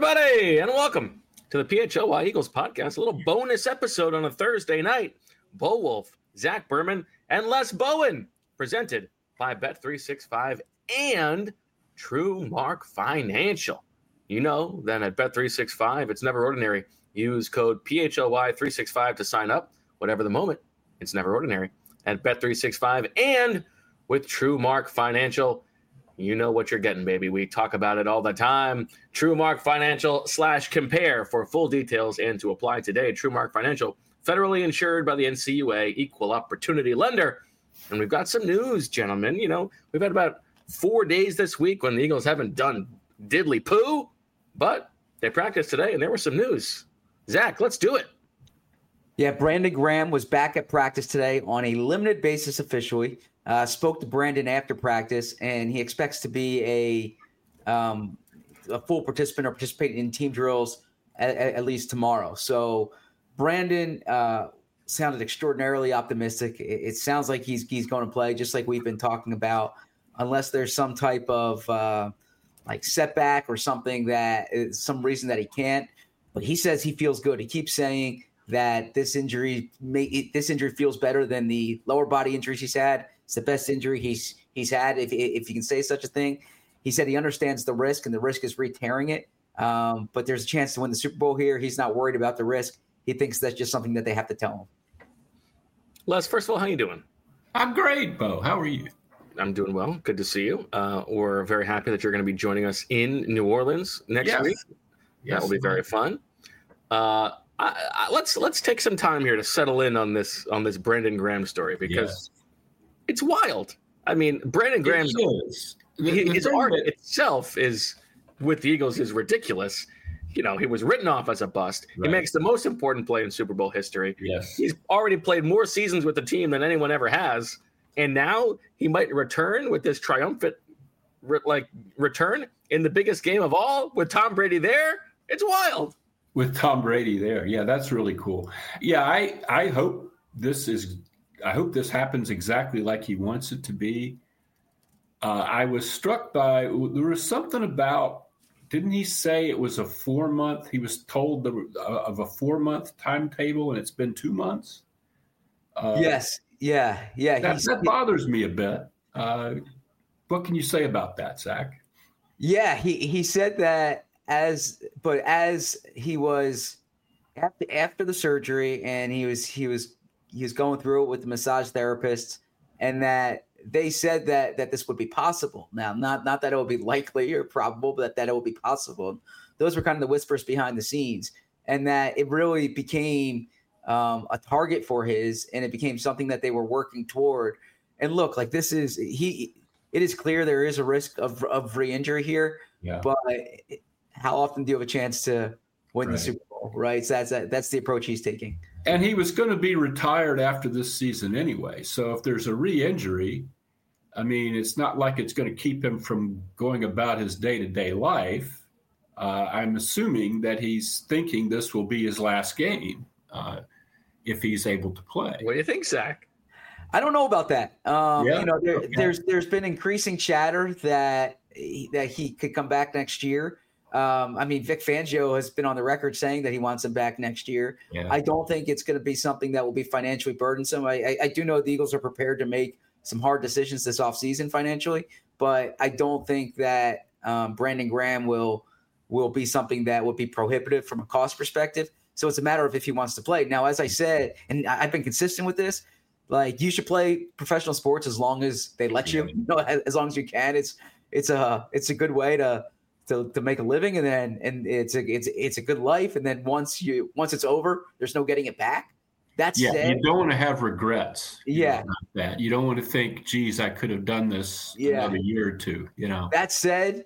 everybody, and welcome to the PHLY Eagles podcast, a little bonus episode on a Thursday night. Bo Wolf, Zach Berman, and Les Bowen, presented by Bet365 and True Mark Financial. You know that at Bet365, it's never ordinary. Use code PHLY365 to sign up. Whatever the moment, it's never ordinary. At Bet365 and with True Mark Financial, you know what you're getting, baby. We talk about it all the time. TrueMark Financial /compare for full details and to apply today. TrueMark Financial, federally insured by the NCUA, equal opportunity lender. And we've got some news, gentlemen. You know, we've had about 4 days this week when the Eagles haven't done diddly poo, but they practiced today and there was some news. Zach, let's do it. Yeah, Brandon Graham was back at practice today on a limited basis officially. Spoke to Brandon after practice, and he expects to be a full participant or participate in team drills at least tomorrow. So Brandon sounded extraordinarily optimistic. It sounds like he's going to play, just like we've been talking about, unless there's some type of like setback or something that is some reason that he can't. But he says he feels good. He keeps saying that this injury feels better than the lower body injuries he's had. It's the best injury he's had, if you can say such a thing. He said he understands the risk, and the risk is re-tearing it. But there's a chance to win the Super Bowl here. He's not worried about the risk. He thinks that's just something that they have to tell him. Les, first of all, how you doing? I'm great, Bo. How are you? I'm doing well. Good to see you. We're very happy that you're going to be joining us in New Orleans next week. Yes, that will be very fun. Let's take some time here to settle in on this Brandon Graham story, because it's wild. I mean, Brandon Graham's his art itself is with the Eagles is ridiculous. You know, he was written off as a bust. Right. He makes the most important play in Super Bowl history. Yes. He's already played more seasons with the team than anyone ever has. And now he might return with this triumphant return in the biggest game of all with Tom Brady there. It's wild. With Tom Brady there. Yeah, that's really cool. Yeah, I hope this happens exactly like he wants it to be. I was struck by, there was something about, didn't he say it was a 4-month, he was told of a 4-month timetable and it's been 2 months? Yes. Yeah. That bothers me a bit. What can you say about that, Zach? Yeah, he said that as he was after the surgery and he was going through it with the massage therapist, and that they said that this would be possible. Now, not that it would be likely or probable, but that it would be possible. Those were kind of the whispers behind the scenes, and that it really became a target for his, and it became something that they were working toward. And look, like it is clear there is a risk of re-injury here, but how often do you have a chance to win the Super Bowl, right? So that's the approach he's taking. And he was going to be retired after this season anyway. So if there's a re-injury, I mean, it's not like it's going to keep him from going about his day-to-day life. I'm assuming that he's thinking this will be his last game if he's able to play. What do you think, Zach? I don't know about that. There's been increasing chatter that he could come back next year. I mean, Vic Fangio has been on the record saying that he wants him back next year. Yeah. I don't think it's going to be something that will be financially burdensome. I do know the Eagles are prepared to make some hard decisions this offseason financially, but I don't think that Brandon Graham will be something that would be prohibitive from a cost perspective. So it's a matter of if he wants to play. Now, as I said, and I've been consistent with this, like, you should play professional sports as long as they let you, as long as you can. It's a good way to make a living, and it's a good life. And then once it's over, there's no getting it back. That's you don't want to have regrets. Yeah, that you don't want to think, geez, I could have done this another year or two. That said,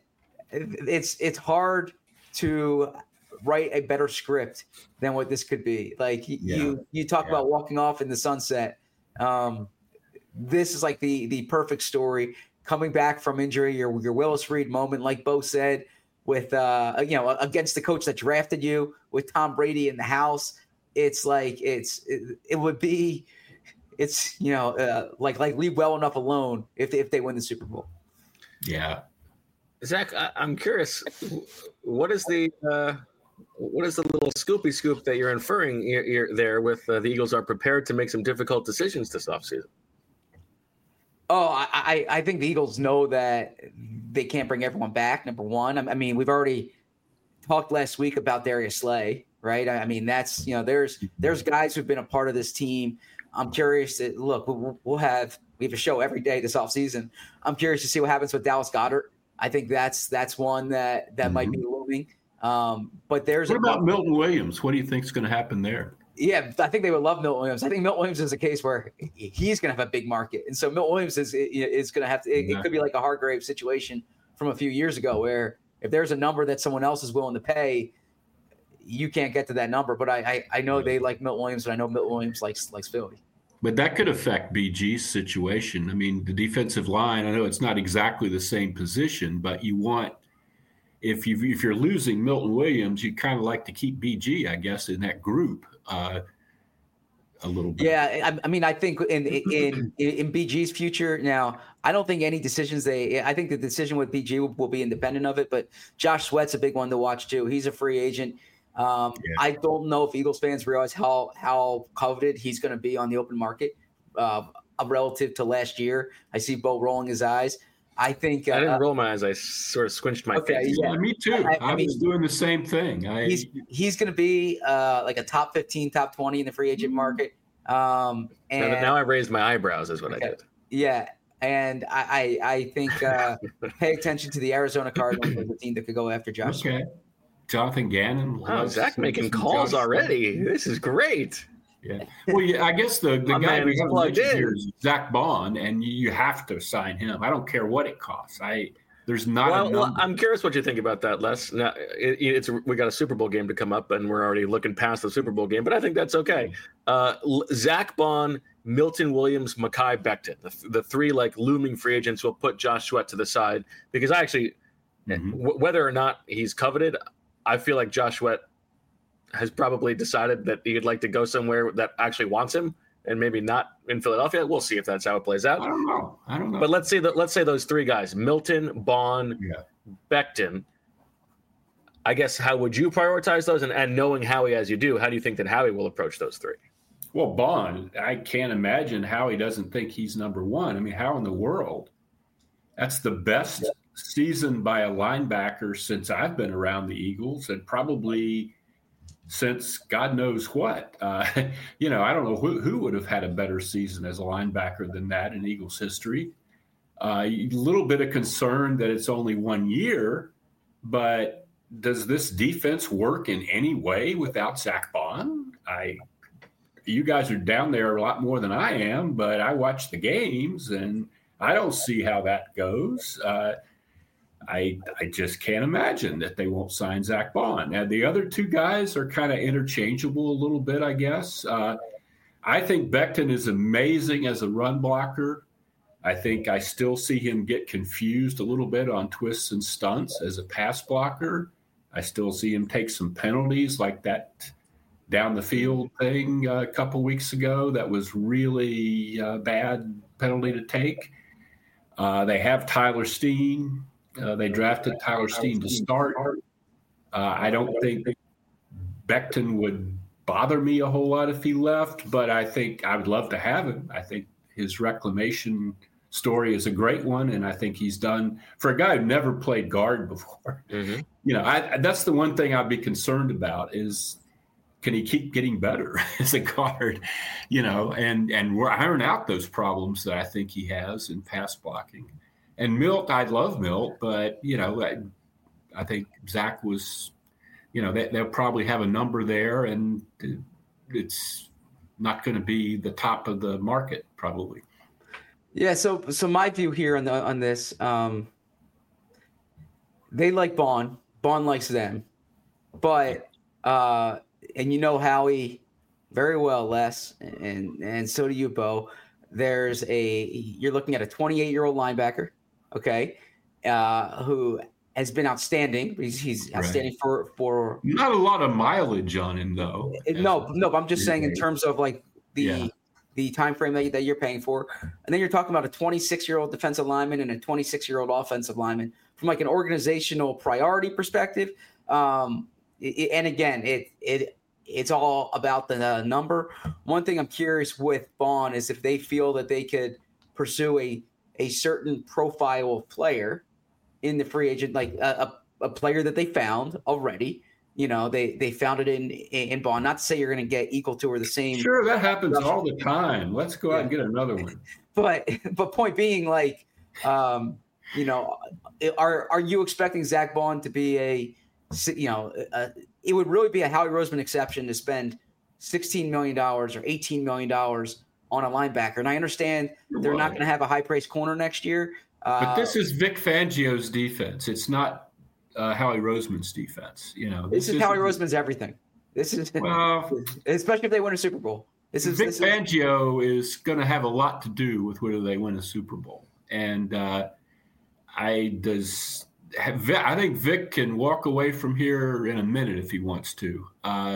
it's hard to write a better script than what this could be. Like you talk about walking off in the sunset. This is like the perfect story. Coming back from injury, your Willis Reed moment, like Bo said, with against the coach that drafted you, with Tom Brady in the house. It's like it would be, like leave well enough alone if they win the Super Bowl. Yeah, Zach, I'm curious. What is the little scoopy scoop that you're inferring there with the Eagles are prepared to make some difficult decisions this offseason? Oh, I think the Eagles know that they can't bring everyone back, number one. I mean, we've already talked last week about Darius Slay, right? I mean, that's, there's guys who've been a part of this team. I'm curious to look, we have a show every day this offseason. I'm curious to see what happens with Dallas Goedert. I think that's one that might be looming. But there's what about Milton Williams? What do you think is going to happen there? Yeah, I think they would love Milton Williams. I think Milton Williams is a case where he's going to have a big market, and so Milton Williams is going to have to. It could be like a Hargrave situation from a few years ago, where if there's a number that someone else is willing to pay, you can't get to that number. But I know they like Milton Williams, and I know Milton Williams likes Philly. But that could affect BG's situation. I mean, the defensive line, I know it's not exactly the same position, but you want, if you're losing Milton Williams, you kind of like to keep BG, I guess, in that group a little bit. Yeah, I mean, I think in BG's future now, I don't think any decisions I think the decision with BG will be independent of it, but Josh Sweat's a big one to watch too. He's a free agent. I don't know if Eagles fans realize how coveted he's going to be on the open market relative to last year. I see Bo rolling his eyes. I think I didn't roll my eyes. I sort of squinched my face. Yeah, me too. I was doing the same thing. He's going to be like a top 15, top 20 in the free agent market. And now I raised my eyebrows is what I did. Yeah. And I think pay attention to the Arizona Cardinals, the team that could go after Josh. Okay. Jonathan Gannon. Wow, Zach making calls already. This is great. Yeah. Well, I guess the guy we haven't mentioned here is Zach Bond, and you have to sign him. I don't care what it costs. There's not a number. I'm curious what you think about that, Les. Now, we got a Super Bowl game to come up, and we're already looking past the Super Bowl game, but I think that's okay. Zach Bond, Milton Williams, Mekhi Becton, the three like looming free agents. Will put Josh Sweat to the side because I actually, whether or not he's coveted, I feel like Josh Sweat has probably decided that he'd like to go somewhere that actually wants him, and maybe not in Philadelphia. We'll see if that's how it plays out. I don't know. But let's say those three guys: Milton, Bond, Becton. I guess how would you prioritize those? And knowing Howie as you do, how do you think that Howie will approach those three? Well, Bond, I can't imagine how he doesn't think he's number one. I mean, how in the world? That's the best season by a linebacker since I've been around the Eagles, and probably since God knows what. I don't know who would have had a better season as a linebacker than that in Eagles history. A little bit of concern that it's only 1 year, but does this defense work in any way without Zach Bond? You guys are down there a lot more than I am, but I watch the games and I don't see how that goes. I just can't imagine that they won't sign Zach Bond. Now, the other two guys are kind of interchangeable a little bit, I guess. I think Becton is amazing as a run blocker. I think I still see him get confused a little bit on twists and stunts as a pass blocker. I still see him take some penalties like that down the field thing a couple weeks ago. That was really a bad penalty to take. They have Tyler Steen. They drafted Tyler Steen to start. I don't think Becton would bother me a whole lot if he left, but I think I would love to have him. I think his reclamation story is a great one, and I think he's done for a guy who never played guard before. Mm-hmm. That's the one thing I'd be concerned about is can he keep getting better as a guard, and we're iron out those problems that I think he has in pass blocking. And Milt, I love Milt, but, I think Zach was, they'll probably have a number there, and it's not going to be the top of the market probably. Yeah, so my view here on this, they like Bond. Bond likes them. But, and Howie very well, Les, and so do you, Bo. You're looking at a 28-year-old linebacker, okay, who has been outstanding. He's outstanding for not a lot of mileage on him though. No, but I'm just saying in terms of like the time frame that you're paying for, and then you're talking about a 26-year-old defensive lineman and a 26-year-old offensive lineman, from like an organizational priority perspective. And again, it's all about the number. One thing I'm curious with Vaughn is if they feel that they could pursue a certain profile of player in the free agent, like a player that they found already. You know, they found it in Vaughn. Not to say you're going to get equal to or the same. Sure, that happens all the time. Let's go out and get another one. But point being, like, you know, are you expecting Zach Vaughn to be it would really be a Howie Roseman exception to spend $16 million or $18 million on a linebacker? And I understand they're not going to have a high-priced corner next year. But this is Vic Fangio's defense. It's not Howie Roseman's defense. You know, this is Howie Roseman's everything. This is especially if they win a Super Bowl. Vic Fangio is going to have a lot to do with whether they win a Super Bowl. And I think Vic can walk away from here in a minute if he wants to.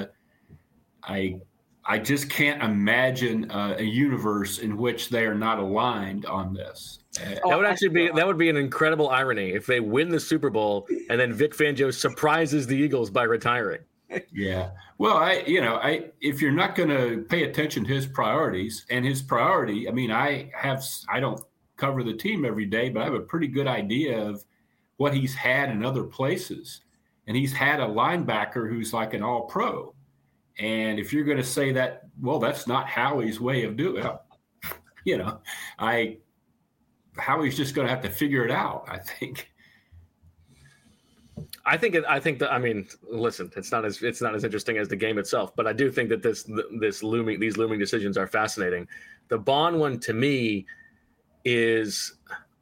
I just can't imagine a universe in which they are not aligned on this. That would be an incredible irony if they win the Super Bowl and then Vic Fangio surprises the Eagles by retiring. Yeah. Well, if you're not going to pay attention to his priorities, and his priority, I mean, I don't cover the team every day, but I have a pretty good idea of what he's had in other places. And he's had a linebacker who's like an all-pro. And if you're going to say that, well, that's not Howie's way of doing it, you know, Howie's just going to have to figure it out, I think. I mean, listen, it's not as interesting as the game itself, but I do think that these looming decisions are fascinating. The Vaughn one to me is,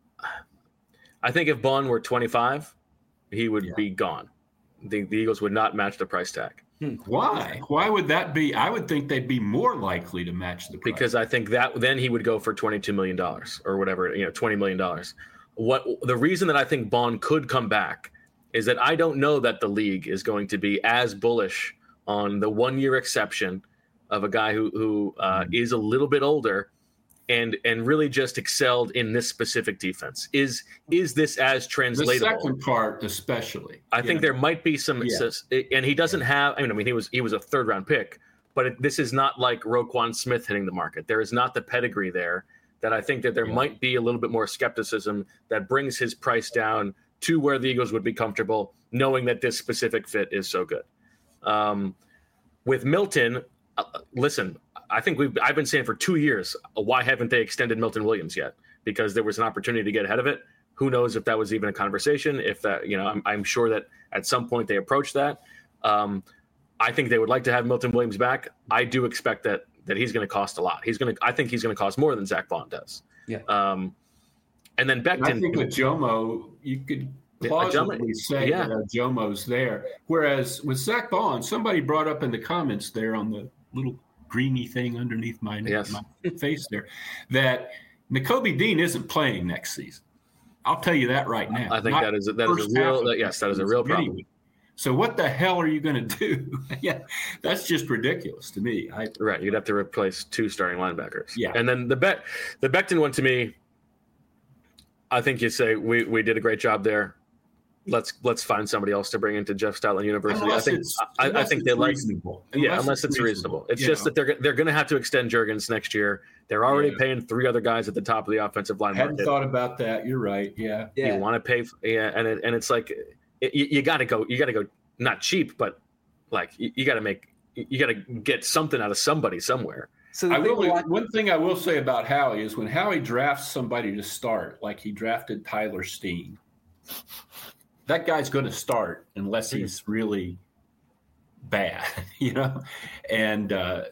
I think if Vaughn were 25, he would be gone. The Eagles would not match the price tag. Why? Why would that be? I would think they'd be more likely to match the price. Because I think that then he would go for $22 million or whatever, $20 million. The reason that I think Vaughn could come back is that I don't know that the league is going to be as bullish on the 1 year exception of a guy who is a little bit older and really just excelled in this specific defense. Is this as translatable? The second part, especially. I think there might be some, and he doesn't have. I mean, he was a third round pick, but this is not like Roquan Smith hitting the market. There is not the pedigree there that I think that there might be a little bit more skepticism that brings his price down to where the Eagles would be comfortable, knowing that this specific fit is so good. With Milton, listen. I think I've been saying for 2 years, why haven't they extended Milton Williams yet? Because there was an opportunity to get ahead of it. Who knows if that was even a conversation? If that, I'm sure that at some point they approached that. I think they would like to have Milton Williams back. I do expect that he's going to cost a lot. I think he's going to cost more than Zach Vaughn does. Yeah. And then Becton. I think with Jomo, you could plausibly say that Jomo's there. Whereas with Zach Vaughn, somebody brought up in the comments there on the little greeny thing underneath my face there, that Nakobe Dean isn't playing next season. I'll tell you that right now. I think that is a real problem. So what the hell are you going to do? Yeah, that's just ridiculous to me. Right, you'd have to replace 2 starting linebackers. Yeah, and then the Becton one to me, I think you say we did a great job there. Let's find somebody else to bring into Jeff Stoutland University. I think they like reasonable. Unless it's reasonable. It's just that they're going to have to extend Juergens next year. They're already paying 3 other guys at the top of the offensive line. Hadn't thought about that. You're right. Yeah. You want to pay. And it's like you got to go. You got to go not cheap, but like you got to get something out of somebody somewhere. So one thing I will say about Howie is when Howie drafts somebody to start, like he drafted Tyler Steen. That guy's going to start unless he's really bad, and,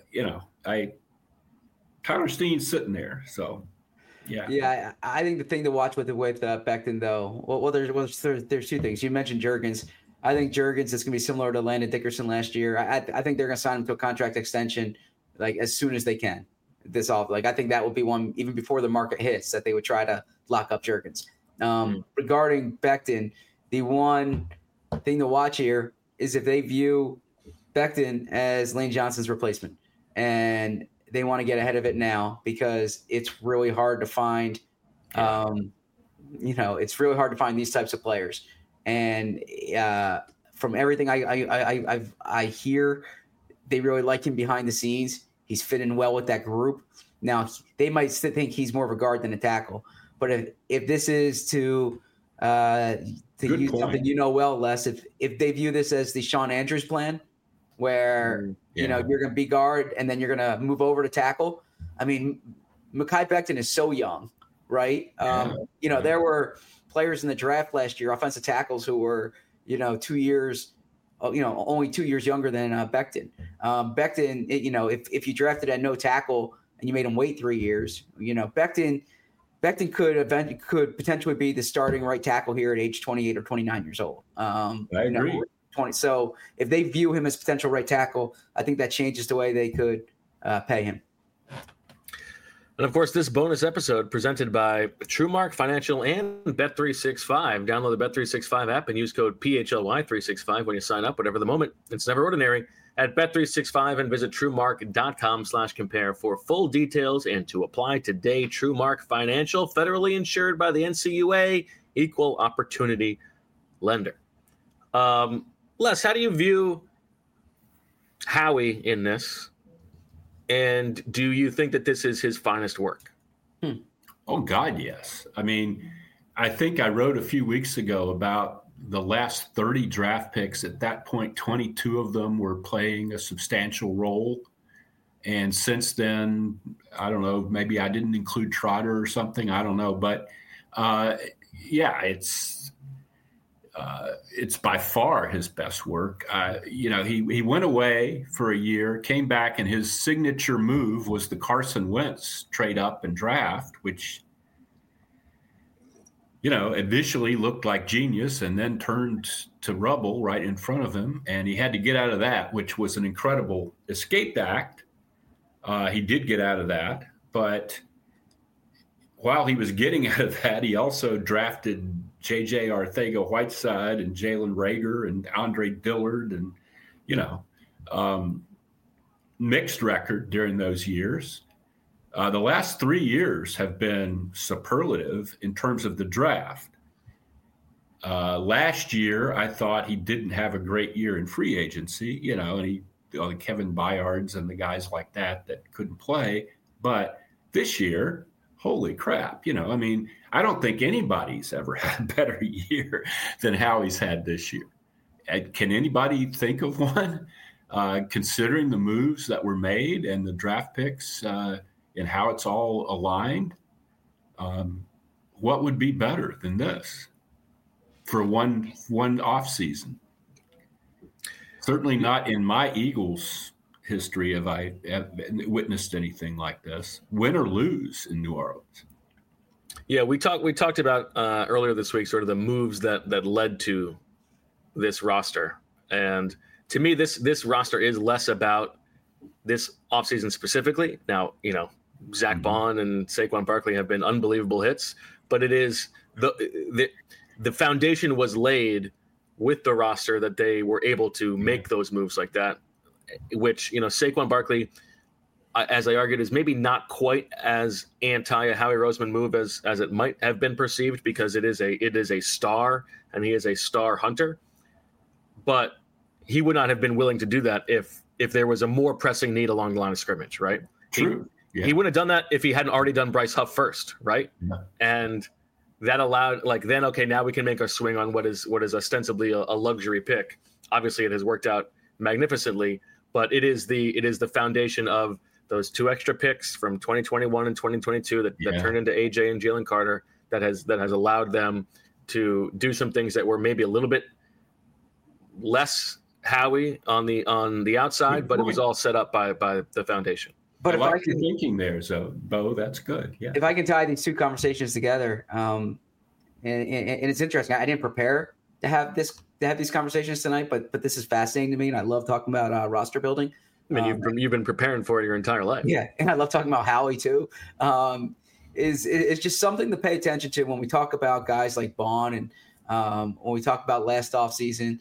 Tyler Steen's sitting there. So, yeah. Yeah. I think the thing to watch with Becton though, well, there's 2 things. You mentioned Juergens. I think Juergens is going to be similar to Landon Dickerson last year. I think they're going to sign him to a contract extension like as soon as they can. I think that would be one even before the market hits that they would try to lock up Juergens. Regarding Becton, the one thing to watch here is if they view Becton as Lane Johnson's replacement, and they want to get ahead of it now because it's really hard to find it's really hard to find these types of players. And from everything I hear, they really like him behind the scenes. He's fitting well with that group. Now, they might still think he's more of a guard than a tackle. But if this is to use something well, Les, if they view this as the Sean Andrews plan, where you're going to be guard and then you're going to move over to tackle. I mean, Mekhi Becton is so young, right? There were players in the draft last year, offensive tackles who were 2 years, only 2 years younger than Becton. Becton, if you drafted at no tackle and you made him wait 3 years, Becton could potentially be the starting right tackle here at age 28 or 29 years old. I agree. 20. So if they view him as potential right tackle, I think that changes the way they could pay him. And of course, this bonus episode presented by TrueMark Financial and Bet365. Download the Bet365 app and use code PHLY365 when you sign up. Whatever the moment, it's never ordinary at Bet365 and visit TrueMark.com/compare for full details and to apply today. TrueMark Financial, federally insured by the NCUA, equal opportunity lender. Les, how do you view Howie in this? And do you think that this is his finest work? Oh, God, yes. I mean, I think I wrote a few weeks ago about the last 30 draft picks. At that point, 22 of them were playing a substantial role. And since then, I don't know, maybe I didn't include Trotter or something. I don't know. But, it's by far his best work. He went away for a year, came back, and his signature move was the Carson Wentz trade up and draft, which, initially looked like genius and then turned to rubble right in front of him. And he had to get out of that, which was an incredible escape act. He did get out of that. But while he was getting out of that, he also drafted J.J. Arcega-Whiteside and Jalen Reagor and Andre Dillard and, mixed record during those years. The last 3 years have been superlative in terms of the draft. Last year, I thought he didn't have a great year in free agency, and the Kevin Byards and the guys like that couldn't play. But this year, holy crap, I don't think anybody's ever had a better year than Howie's had this year. Can anybody think of one, considering the moves that were made and the draft picks and how it's all aligned? What would be better than this for one off season? Certainly not in my Eagles history have I witnessed anything like this, win or lose in New Orleans. Yeah, we talked about earlier this week sort of the moves that led to this roster. And to me, this roster is less about this offseason specifically. Now, Zach Bond and Saquon Barkley have been unbelievable hits, but it is the foundation was laid with the roster that they were able to make those moves like that, which, Saquon Barkley, as I argued, is maybe not quite as anti a Howie Roseman move as it might have been perceived, because it is a star and he is a star hunter. But he would not have been willing to do that if there was a more pressing need along the line of scrimmage, right? True. He wouldn't have done that if he hadn't already done Bryce Huff first, right? Yeah. And that allowed, now we can make our swing on what is ostensibly a luxury pick. Obviously, it has worked out magnificently, but it is the foundation of those two extra picks from 2021 and 2022 that turned into AJ and Jalen Carter that has allowed them to do some things that were maybe a little bit less Howie on the outside, but it was all set up by the foundation. But if I can thinking there, so Bo, that's good. Yeah. If I can tie these two conversations together, and it's interesting. I didn't prepare to have these conversations tonight, but this is fascinating to me, and I love talking about roster building. I mean, you've been preparing for it your entire life. Yeah, and I love talking about Howie too. It's just something to pay attention to when we talk about guys like Bond and when we talk about last offseason.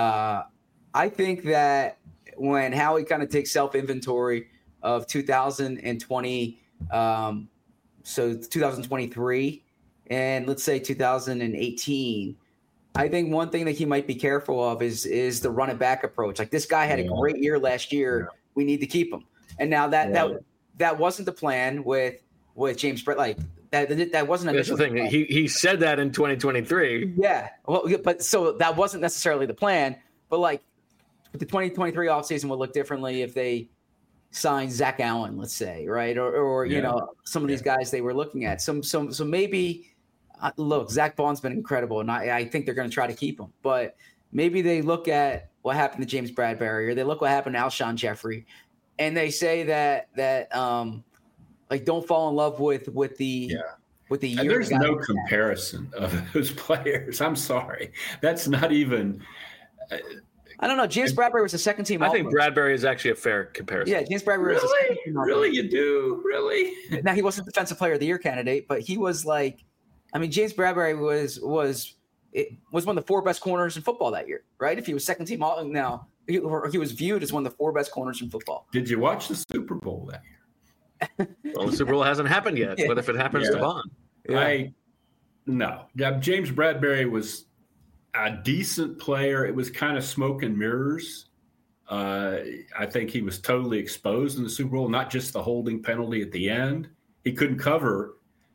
I think that when Howie kind of takes self-inventory of 2020, so 2023, and let's say 2018, I think one thing that he might be careful of is the run it back approach. Like, this guy had a great year last year. Yeah. We need to keep him. And now that wasn't the plan with James Brett. Like, that wasn't. That's the thing. He said that in 2023. Yeah. Well, but so that wasn't necessarily the plan. But like, the 2023 offseason would look differently if they signed Zach Allen, let's say, right? Or you know, some of these guys they were looking at. So maybe. Look, Zach Vaughn's been incredible, and I think they're going to try to keep him. But maybe they look at what happened to James Bradberry, or they look what happened to Alshon Jeffrey, and they say that like, don't fall in love with the year. And there's no comparison of those players. I'm sorry, that's not even. I don't know. James Bradberry was a second team. I think Bradberry is actually a fair comparison. Yeah, James Bradberry was a second team. Really, you do really? Now, he wasn't Defensive Player of the Year candidate, but he was like. I mean, James Bradberry was one of the 4 best corners in football that year, right? If he was second team all now, he was viewed as one of the 4 best corners in football. Did you watch the Super Bowl that year? Well, the Super Bowl hasn't happened yet. What if it happens to Vaughn? No. James Bradberry was a decent player. It was kind of smoke and mirrors. I think he was totally exposed in the Super Bowl, not just the holding penalty at the end. He couldn't cover,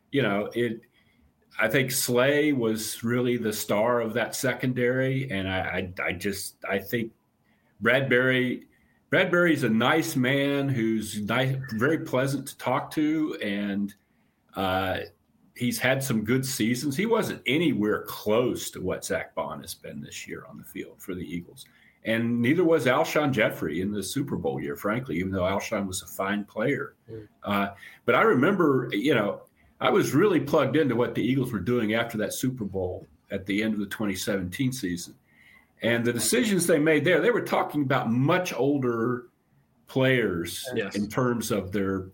I think Slay was really the star of that secondary, and I think Bradberry's a nice man who's nice, very pleasant to talk to, and he's had some good seasons. He wasn't anywhere close to what Zach Bond has been this year on the field for the Eagles, and neither was Alshon Jeffrey in the Super Bowl year, frankly, even though Alshon was a fine player. But I remember, I was really plugged into what the Eagles were doing after that Super Bowl at the end of the 2017 season. And the decisions they made there, they were talking about much older players in terms of their,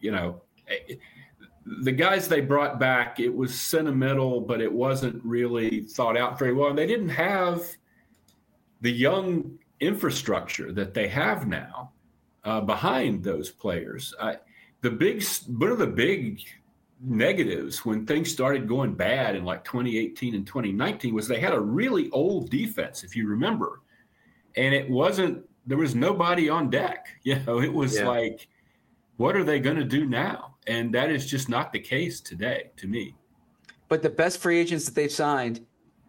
the guys they brought back, it was sentimental, but it wasn't really thought out very well. And they didn't have the young infrastructure that they have now behind those players. One of the big negatives when things started going bad in like 2018 and 2019 was they had a really old defense, if you remember, and there was nobody on deck. It was like, what are they going to do now? And that is just not the case today, to me. But the best free agents that they've signed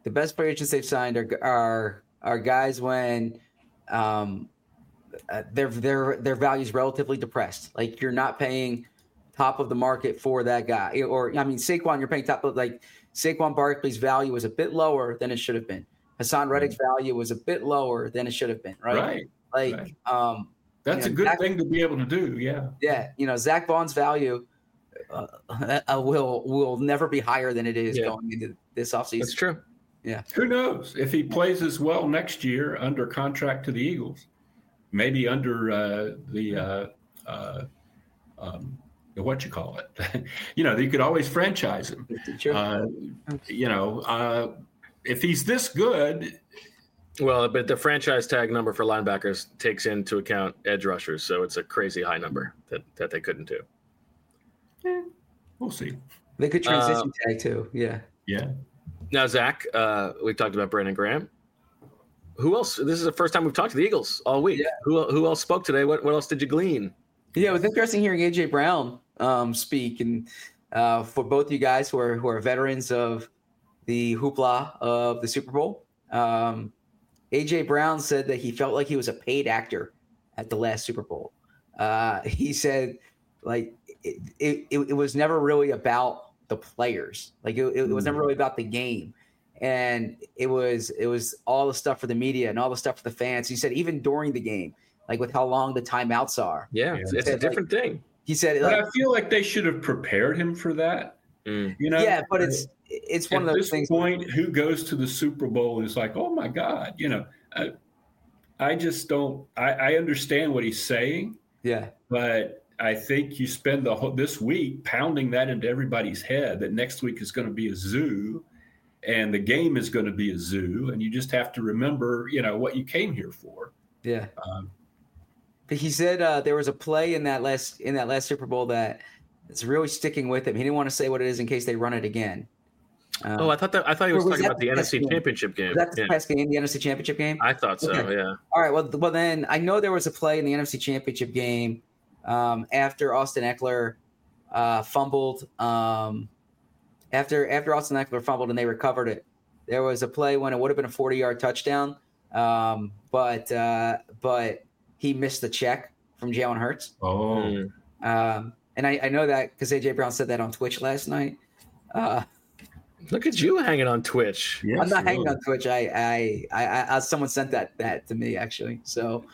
are guys when their value is relatively depressed. Like, you're not paying top of the market for that guy. Or, I mean, Saquon, you're paying top of, like, Saquon Barkley's value was a bit lower than it should have been. Hassan Reddick's value was a bit lower than it should have been, right? Like, that's a good thing to be able to do, yeah. Yeah, Zach Vaughn's value will never be higher than it is going into this offseason. That's true. Yeah. Who knows? If he plays as well next year under contract to the Eagles, maybe under what you call it, you could always franchise him. Sure. If he's this good. Well, but the franchise tag number for linebackers takes into account edge rushers, so it's a crazy high number that they couldn't do. Yeah, we'll see. They could transition tag too. Yeah. Yeah. Now, Zach, we talked about Brandon Graham. Who else? This is the first time we've talked to the Eagles all week. Yeah. Who else spoke today? What else did you glean? Yeah, it was interesting hearing A.J. Brown speak, and for both you guys who are veterans of the hoopla of the Super Bowl, A.J. Brown said that he felt like he was a paid actor at the last Super Bowl. He said, like, it was never really about the players. Like, it was never really about the game. And it was all the stuff for the media and all the stuff for the fans. He said even during the game, like with how long the timeouts are. Yeah, it's a different thing. He said, but I feel like they should have prepared him for that. Yeah, but it's one of those things. At this point, who goes to the Super Bowl and is like, oh my God, I just don't. I understand what he's saying. Yeah, but I think you spend this week pounding that into everybody's head that next week is going to be a zoo, and the game is going to be a zoo, and you just have to remember, what you came here for. Yeah. But he said there was a play in that last Super Bowl that it's really sticking with him. He didn't want to say what it is in case they run it again. I thought he was talking about the NFC Championship game. Was that the past game, the NFC Championship game? I thought so. Okay. Yeah. All right. Well, then I know there was a play in the NFC Championship game after Austin Eckler fumbled. After Austin Eckler fumbled and they recovered it, there was a play when it would have been a 40-yard touchdown, but he missed the check from Jalen Hurts. Oh. And I know that because AJ Brown said that on Twitch last night. Look at you hanging on Twitch. Yes, I'm not hanging on Twitch. I someone sent that to me actually. So,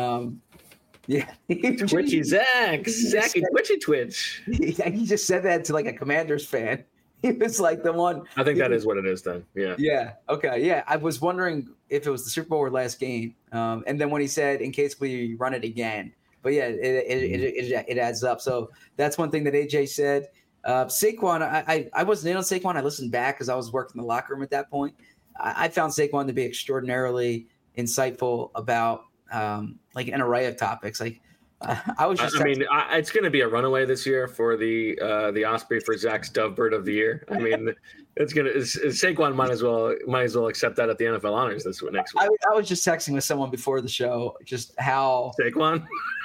yeah. Twitchy Zachy Twitchy Twitch. He just said that to like a Commanders fan. He was like the one. I think that is what it is then. Yeah. Yeah. Okay. Yeah. I was wondering if it was the Super Bowl or last game. And then when he said, in case we run it again. But yeah, it adds up. So that's one thing that AJ said. Saquon, I wasn't in on Saquon. I listened back because I was working in the locker room at that point. I found Saquon to be extraordinarily insightful about like an array of topips. Like it's going to be a runaway this year for the Osprey for Zach's Dovebird of the Year. I mean, Saquon might as well accept that at the NFL honors next week. I was just texting with someone before the show, just how Saquon,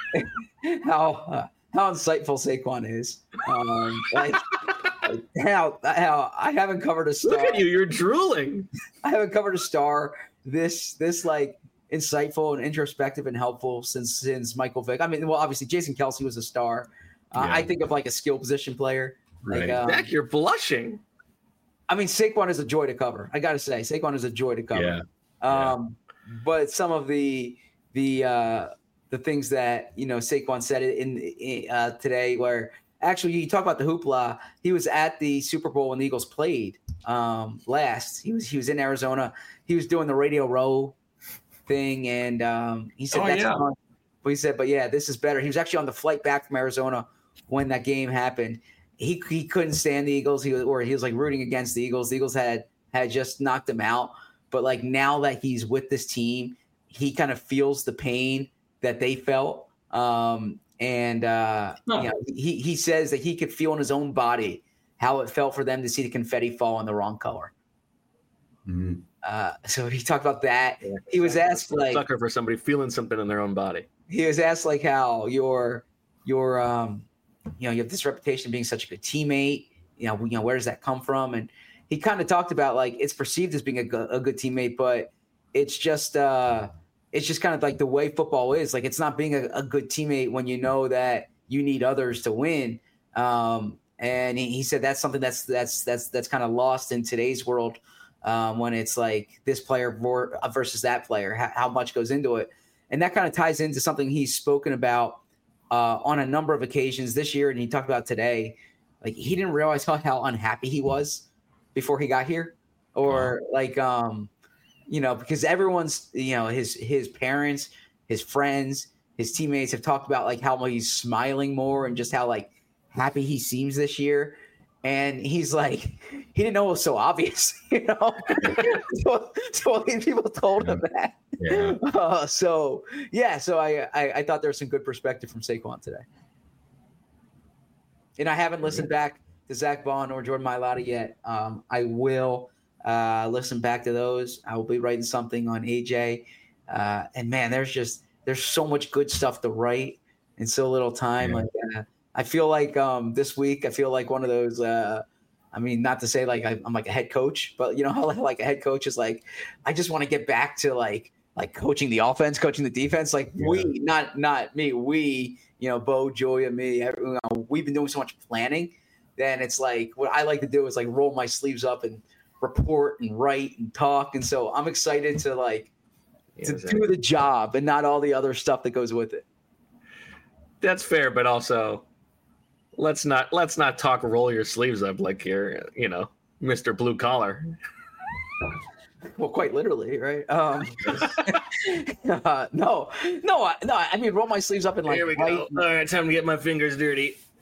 how insightful Saquon is. Like how I haven't covered a star. Look at you, you're drooling. I haven't covered a star this like insightful and introspective and helpful since Michael Vick. I mean, well, obviously Jason Kelce was a star. I think of like a skill position player. Right. Like, Zach, you're blushing. I mean, Saquon is a joy to cover. I got to say, Saquon is a joy to cover. Yeah. But some of the things that Saquon said in today, where actually you talk about the hoopla. He was at the Super Bowl when the Eagles played last. He was in Arizona. He was doing the Radio Row thing, and he said but he said, but yeah, this is better. He was actually on the flight back from Arizona when that game happened. He couldn't stand the Eagles. He was like rooting against the Eagles. The Eagles had just knocked him out, but like now that he's with this team, he kind of feels the pain that they felt. He says that he could feel in his own body how it felt for them to see the confetti fall in the wrong color. Mm-hmm. So he talked about that. Yeah, he was asked like sucker for somebody feeling something in their own body. He was asked like how you have this reputation of being such a good teammate. Where does that come from? And he kind of talked about like it's perceived as being a good teammate, but it's just kind of like the way football is. Like it's not being a good teammate when you know that you need others to win. And he said that's something that's kind of lost in today's world. When it's like this player versus that player, how much goes into it. And that kind of ties into something he's spoken about on a number of occasions this year. And he talked about today, like he didn't realize how unhappy he was before he got here or because everyone's, his parents, his friends, his teammates have talked about like how he's smiling more and just how like happy he seems this year. And he's like, he didn't know it was so obvious, so people told him that. Yeah. So I thought there was some good perspective from Saquon today. And I haven't listened back to Zach Bond or Jordan Mailata yet. I will listen back to those. I will be writing something on AJ. And man, there's so much good stuff to write in so little time. Yeah. Like I feel like this week, I feel like one of those, not to say like I'm like a head coach, but how like a head coach is like, I just want to get back to like coaching the offense, coaching the defense. Like we, not me, we, Bo, Joya, me, everyone, we've been doing so much planning. Then it's like, what I like to do is like roll my sleeves up and report and write and talk. And so I'm excited to do the job and not all the other stuff that goes with it. That's fair, but also let's not talk roll your sleeves up like you're Mr. Blue Collar. Well, quite literally, right? No. I mean, roll my sleeves up and like. Here we go. All right, time to get my fingers dirty.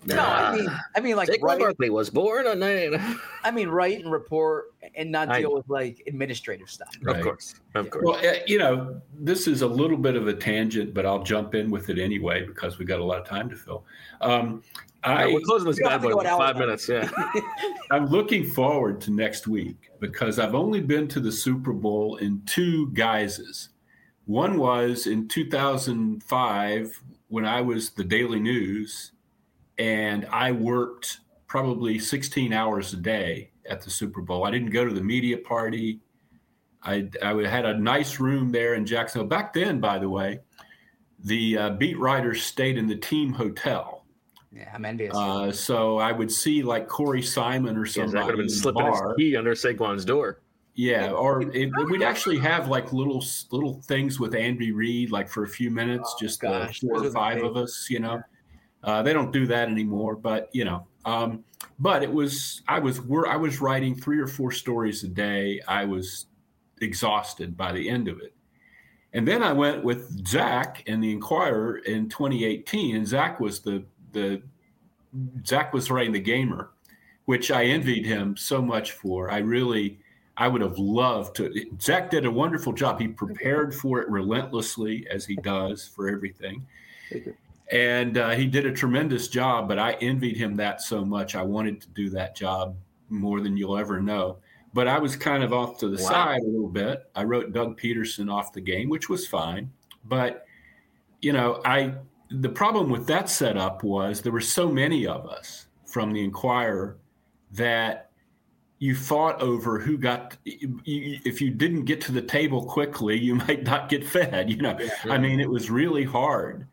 No, I mean, like Saquon Barkley was born on 9. I mean, write and report and not deal with like administrative stuff. Right. Of course. Well, this is a little bit of a tangent, but I'll jump in with it anyway because we got a lot of time to fill. We're closing this bad boy in 5 minutes. Yeah. I'm looking forward to next week because I've only been to the Super Bowl in 2 guises. One was in 2005 when I was the Daily News, and I worked probably 16 hours a day at the Super Bowl. I didn't go to the media party. I had a nice room there in Jacksonville. Back then, by the way, the beat writers stayed in the team hotel. Yeah, I'm envious. So I would see like Corey Simon or somebody. That could have been slipping his key under Saquon's door. Yeah, or we'd actually have like little things with Andy Reid, like for a few minutes, just 4 or 5 of us, you know. They don't do that anymore, but you know. But I was writing 3 or 4 stories a day. I was exhausted by the end of it. And then I went with Zach and the Inquirer in 2018, and Zach was writing the Gamer, which I envied him so much for. I would have loved to. Zach did a wonderful job. He prepared for it relentlessly, as he does for everything. And he did a tremendous job, but I envied him that so much. I wanted to do that job more than you'll ever know. But I was kind of off to the side a little bit. I wrote Doug Peterson off the game, which was fine. But, you know, the problem with that setup was there were so many of us from the Inquirer that you fought over who got – if you didn't get to the table quickly, you might not get fed, you know. I mean, it was really hard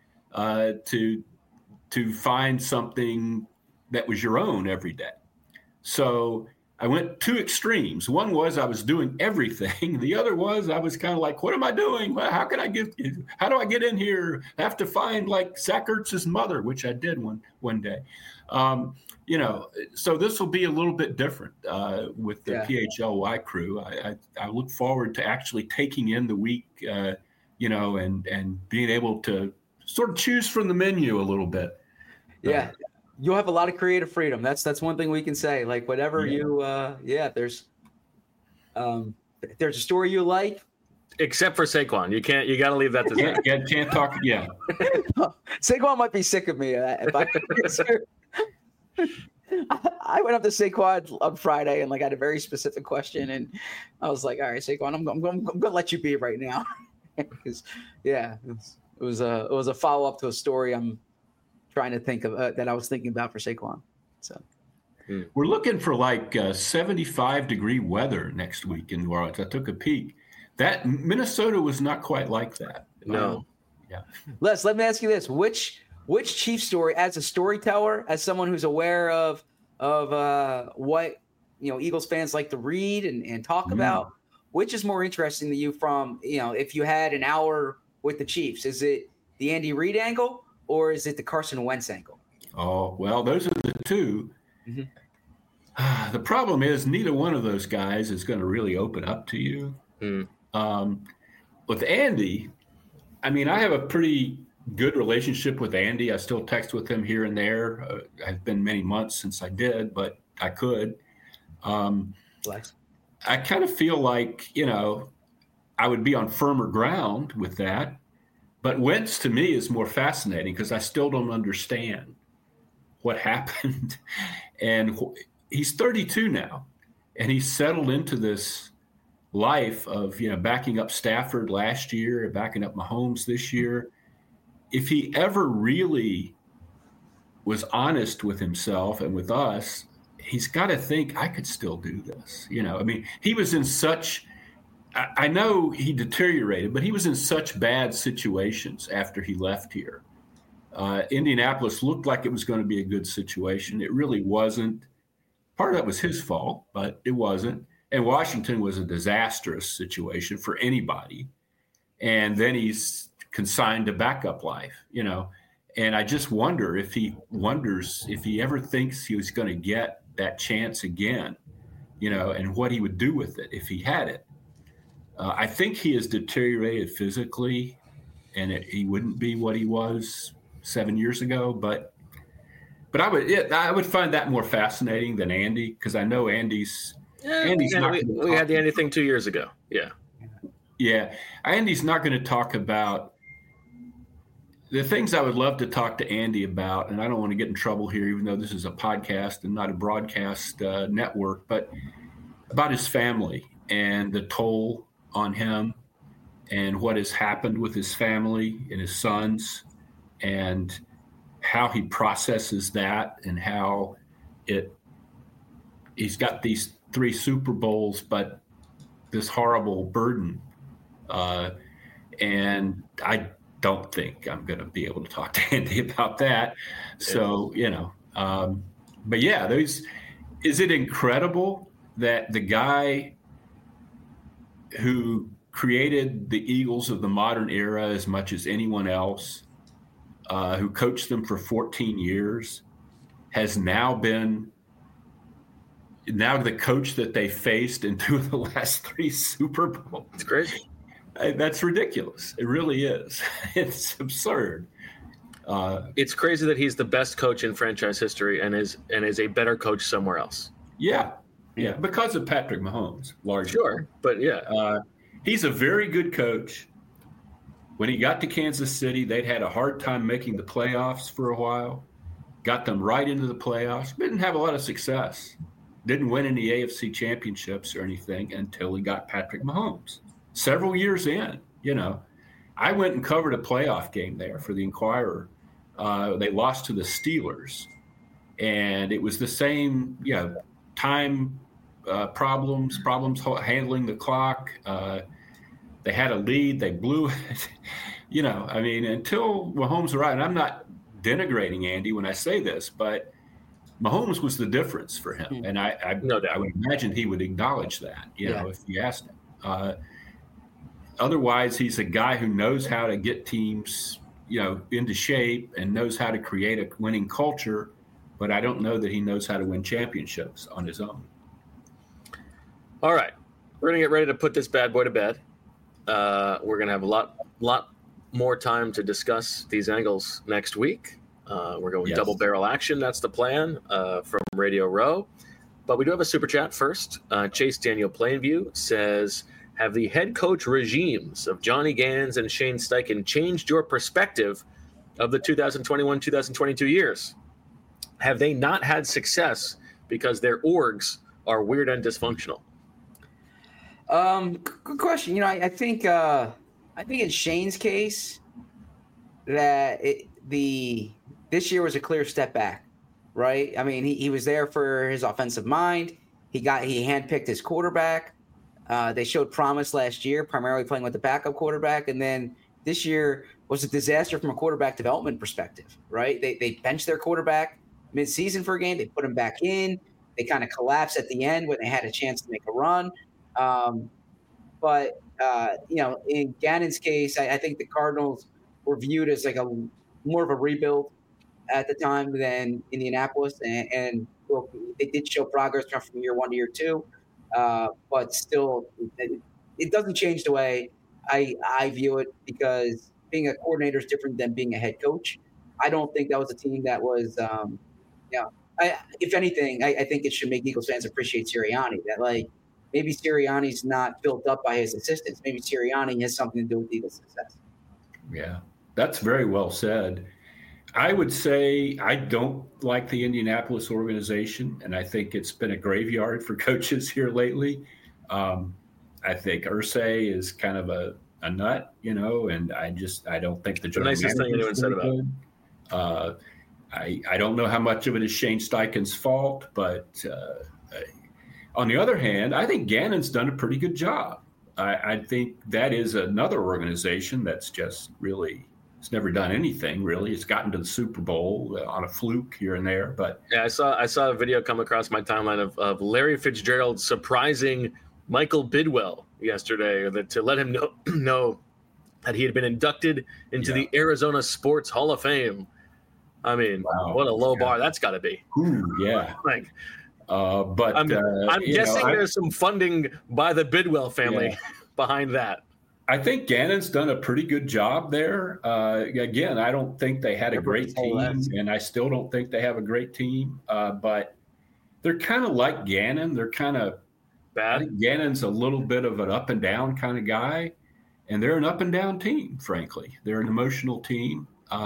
to find something that was your own every day. So I went 2 extremes. One was I was doing everything. The other was I was kind of like, what am I doing? How do I get in here? I have to find like Zach Ertz's mother, which I did one day. You know, so this will be a little bit different with the PHLY crew. I look forward to actually taking in the week, you know, and being able to sort of choose from the menu a little bit. Yeah. You'll have a lot of creative freedom. That's one thing we can say. Like whatever there's a story you like. Except for Saquon. You got to leave that to Zach. Can't talk. Yeah. Saquon might be sick of me. If I went up to Saquon on Friday and like had a very specific question, and I was like, "All right, Saquon, I'm gonna let you be right now," because it was a follow up to a story I'm trying to think of that I was thinking about for Saquon. So we're looking for like 75-degree weather next week in New Orleans. I took a peek. That Minnesota was not quite like that. No. Yeah. Les, let me ask you this: Which Chief story, as a storyteller, as someone who's aware of what Eagles fans like to read and talk about, which is more interesting to you? From if you had an hour with the Chiefs, is it the Andy Reid angle or is it the Carson Wentz angle? Oh well, those are the 2. Mm-hmm. The problem is neither one of those guys is going to really open up to you. With Andy, I mean, I have a pretty good relationship with Andy. I still text with him here and there. It's been many months since I did, but I could. I kind of feel like, I would be on firmer ground with that. But Wentz to me is more fascinating because I still don't understand what happened. And he's 32 now, and he's settled into this life of, backing up Stafford last year, backing up Mahomes this year. If he ever really was honest with himself and with us, he's got to think I could still do this. I mean, he was in such, I know he deteriorated, but he was in such bad situations after he left here. Indianapolis looked like it was going to be a good situation. It really wasn't. Part of that was his fault, but it wasn't. And Washington was a disastrous situation for anybody. And then he's consigned to backup life, and I just wonder if he ever thinks he was going to get that chance again, and what he would do with it if he had it. I think he has deteriorated physically, and he wouldn't be what he was 7 years ago, but But I would find that more fascinating than Andy, because I know Andy's we had the Andy thing 2 years ago. Yeah, Andy's not going to talk about the things I would love to talk to Andy about, and I don't want to get in trouble here, even though this is a podcast and not a broadcast network, but about his family and the toll on him and what has happened with his family and his sons, and how he processes that, and how he's got these 3 Super Bowls, but this horrible burden. And I don't think I'm going to be able to talk to Andy about that. So, but yeah, is it incredible that the guy who created the Eagles of the modern era as much as anyone else, who coached them for 14 years, has now been the coach that they faced in 2 of the last 3 Super Bowls? It's crazy. That's ridiculous. It really is. It's absurd. It's crazy that he's the best coach in franchise history and is a better coach somewhere else. Yeah, because of Patrick Mahomes, largely. Sure, but he's a very good coach. When he got to Kansas City, they'd had a hard time making the playoffs for a while. Got them right into the playoffs. Didn't have a lot of success. Didn't win any AFC championships or anything until he got Patrick Mahomes. Several years in, I went and covered a playoff game there for the Inquirer. They lost to the Steelers, and it was the same, time problems handling the clock. They had a lead, they blew it. Until Mahomes arrived, and I'm not denigrating Andy when I say this, but Mahomes was the difference for him, and I would imagine he would acknowledge that, if you asked him. Otherwise, he's a guy who knows how to get teams, into shape and knows how to create a winning culture, but I don't know that he knows how to win championships on his own. All right. We're going to get ready to put this bad boy to bed. We're going to have a lot more time to discuss these angles next week. We're going double barrel action. That's the plan from Radio Row. But we do have a super chat first. Chase Daniel Plainview says, have the head coach regimes of Johnny Gans and Shane Steichen changed your perspective of the 2021-2022 years? Have they not had success because their orgs are weird and dysfunctional? Good question. I think in Shane's case that this year was a clear step back, right? I mean, he was there for his offensive mind. He handpicked his quarterback. They showed promise last year, primarily playing with the backup quarterback. And then this year was a disaster from a quarterback development perspective, right? They benched their quarterback mid-season for a game. They put him back in. They kind of collapsed at the end when they had a chance to make a run. But in Gannon's case, I think the Cardinals were viewed as like more of a rebuild at the time than Indianapolis. And they did show progress from year 1 to year 2. But still, it doesn't change the way I view it, because being a coordinator is different than being a head coach. I don't think that was a team that was, if anything, I think it should make Eagles fans appreciate Sirianni. That maybe Sirianni's not built up by his assistants. Maybe Sirianni has something to do with Eagles' success. Yeah, that's very well said. I would say I don't like the Indianapolis organization, and I think it's been a graveyard for coaches here lately. I think Irsay is kind of a nut, and I don't think the nicest thing anyone said about it. I don't know how much of it is Shane Steichen's fault, but on the other hand, I think Gannon's done a pretty good job. I think that is another organization that's just really – it's never done anything, really. It's gotten to the Super Bowl on a fluke here and there. But yeah, I saw a video come across my timeline of Larry Fitzgerald surprising Michael Bidwell yesterday to let him know that he had been inducted into the Arizona Sports Hall of Fame. I mean, What a low bar that's got to be. Ooh, yeah. But I'm guessing there's some funding by the Bidwell family behind that. I think Gannon's done a pretty good job there. Again, I don't think they had a great team, and I still don't think they have a great team. But they're kind of like Gannon. They're kind of bad. I think Gannon's a little bit of an up and down kind of guy, and they're an up and down team. Frankly, they're an emotional team.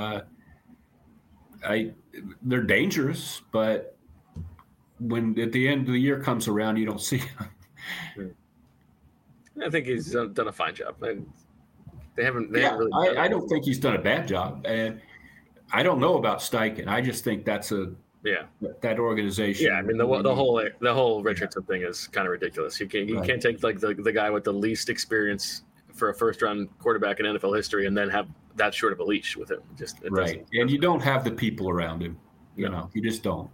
They're dangerous, but when at the end of the year comes around, you don't see them. I think he's done a fine job. They haven't really. I don't think he's done a bad job, and I don't know about Steichen. I just think that's that organization. Yeah, I mean the whole Richardson thing is kind of ridiculous. You can't take like the guy with the least experience for a first round quarterback in NFL history and then have that short of a leash with him. It right, and you don't have the people around him. You just don't.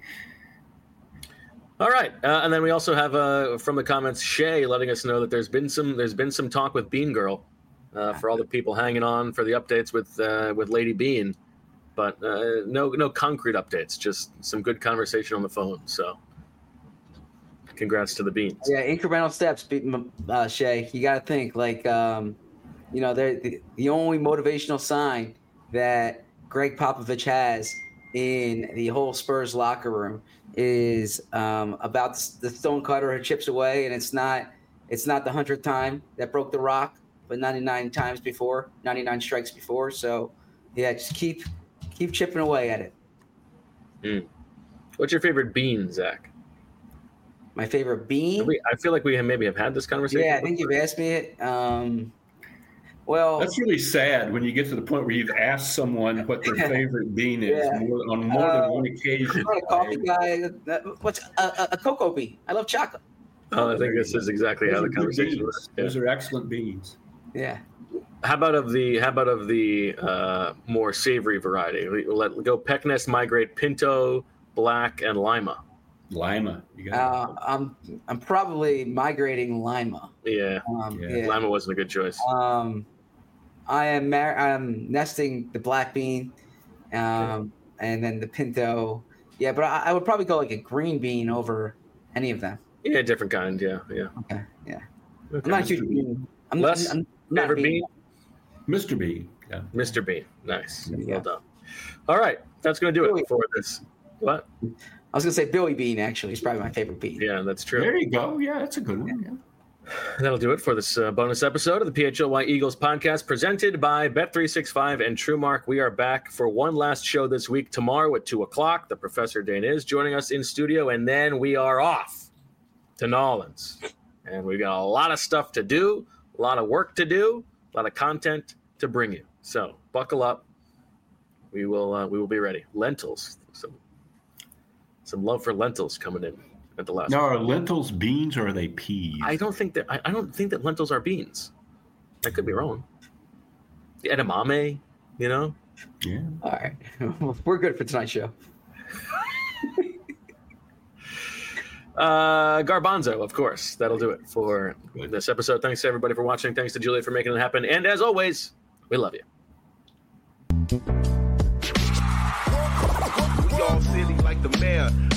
All right, and then we also have from the comments Shay letting us know that there's been some talk with Bean Girl for all the people hanging on for the updates with Lady Bean, but no concrete updates, just some good conversation on the phone. So, congrats to the Beans. Yeah, incremental steps, Shay. You got to think like they're the only motivational sign that Greg Popovich has in the whole Spurs locker room is about the stone cutter who chips away, and it's not the 100th time that broke the rock, but 99 strikes before. So yeah, just keep chipping away at it. What's your favorite bean, Zach? My favorite bean? I feel like we maybe have had this conversation. Yeah, I think you've asked me it. Well, that's really sad when you get to the point where you've asked someone what their favorite bean is on more than one occasion. I'm not a coffee guy. What's a cocoa bean? I love chocolate. I think this is exactly how the conversation works. Those are excellent beans. Yeah. How about of the more savory variety? Let go Pecknest, Migrate, Pinto, Black, and Lima. Lima. I'm probably migrating Lima. Yeah. Lima wasn't a good choice. I'm nesting the black bean, and then the Pinto. Yeah, but I would probably go like a green bean over any of them. Yeah, different kind. Yeah. Okay. Yeah. Okay. I'm not a huge bean. I'm not favorite bean. Mr. Bean. Yeah. Mr. Bean. Nice. Well done. All right, that's going to do it for this. What? I was going to say Billy Bean, actually. He's probably my favorite bean. Yeah, that's true. There you go. Yeah, that's a good one. Yeah. That'll do it for this bonus episode of the PHLY Eagles podcast presented by Bet365 and TrueMark. We are back for one last show this week tomorrow at 2 o'clock. The Professor Dane is joining us in studio, and then we are off to Nolans. And we've got a lot of stuff to do, a lot of work to do, a lot of content to bring you. So buckle up. We will be ready. Lentils. Some love for lentils coming in at the last. Now, are lentils beans or are they peas? I don't think that lentils are beans. I could be wrong. The edamame, Yeah. All right, we're good for tonight's show. Garbanzo, of course. That'll do it for this episode. Thanks to everybody for watching. Thanks to Julia for making it happen. And as always, we love you. We all silly like the mayor.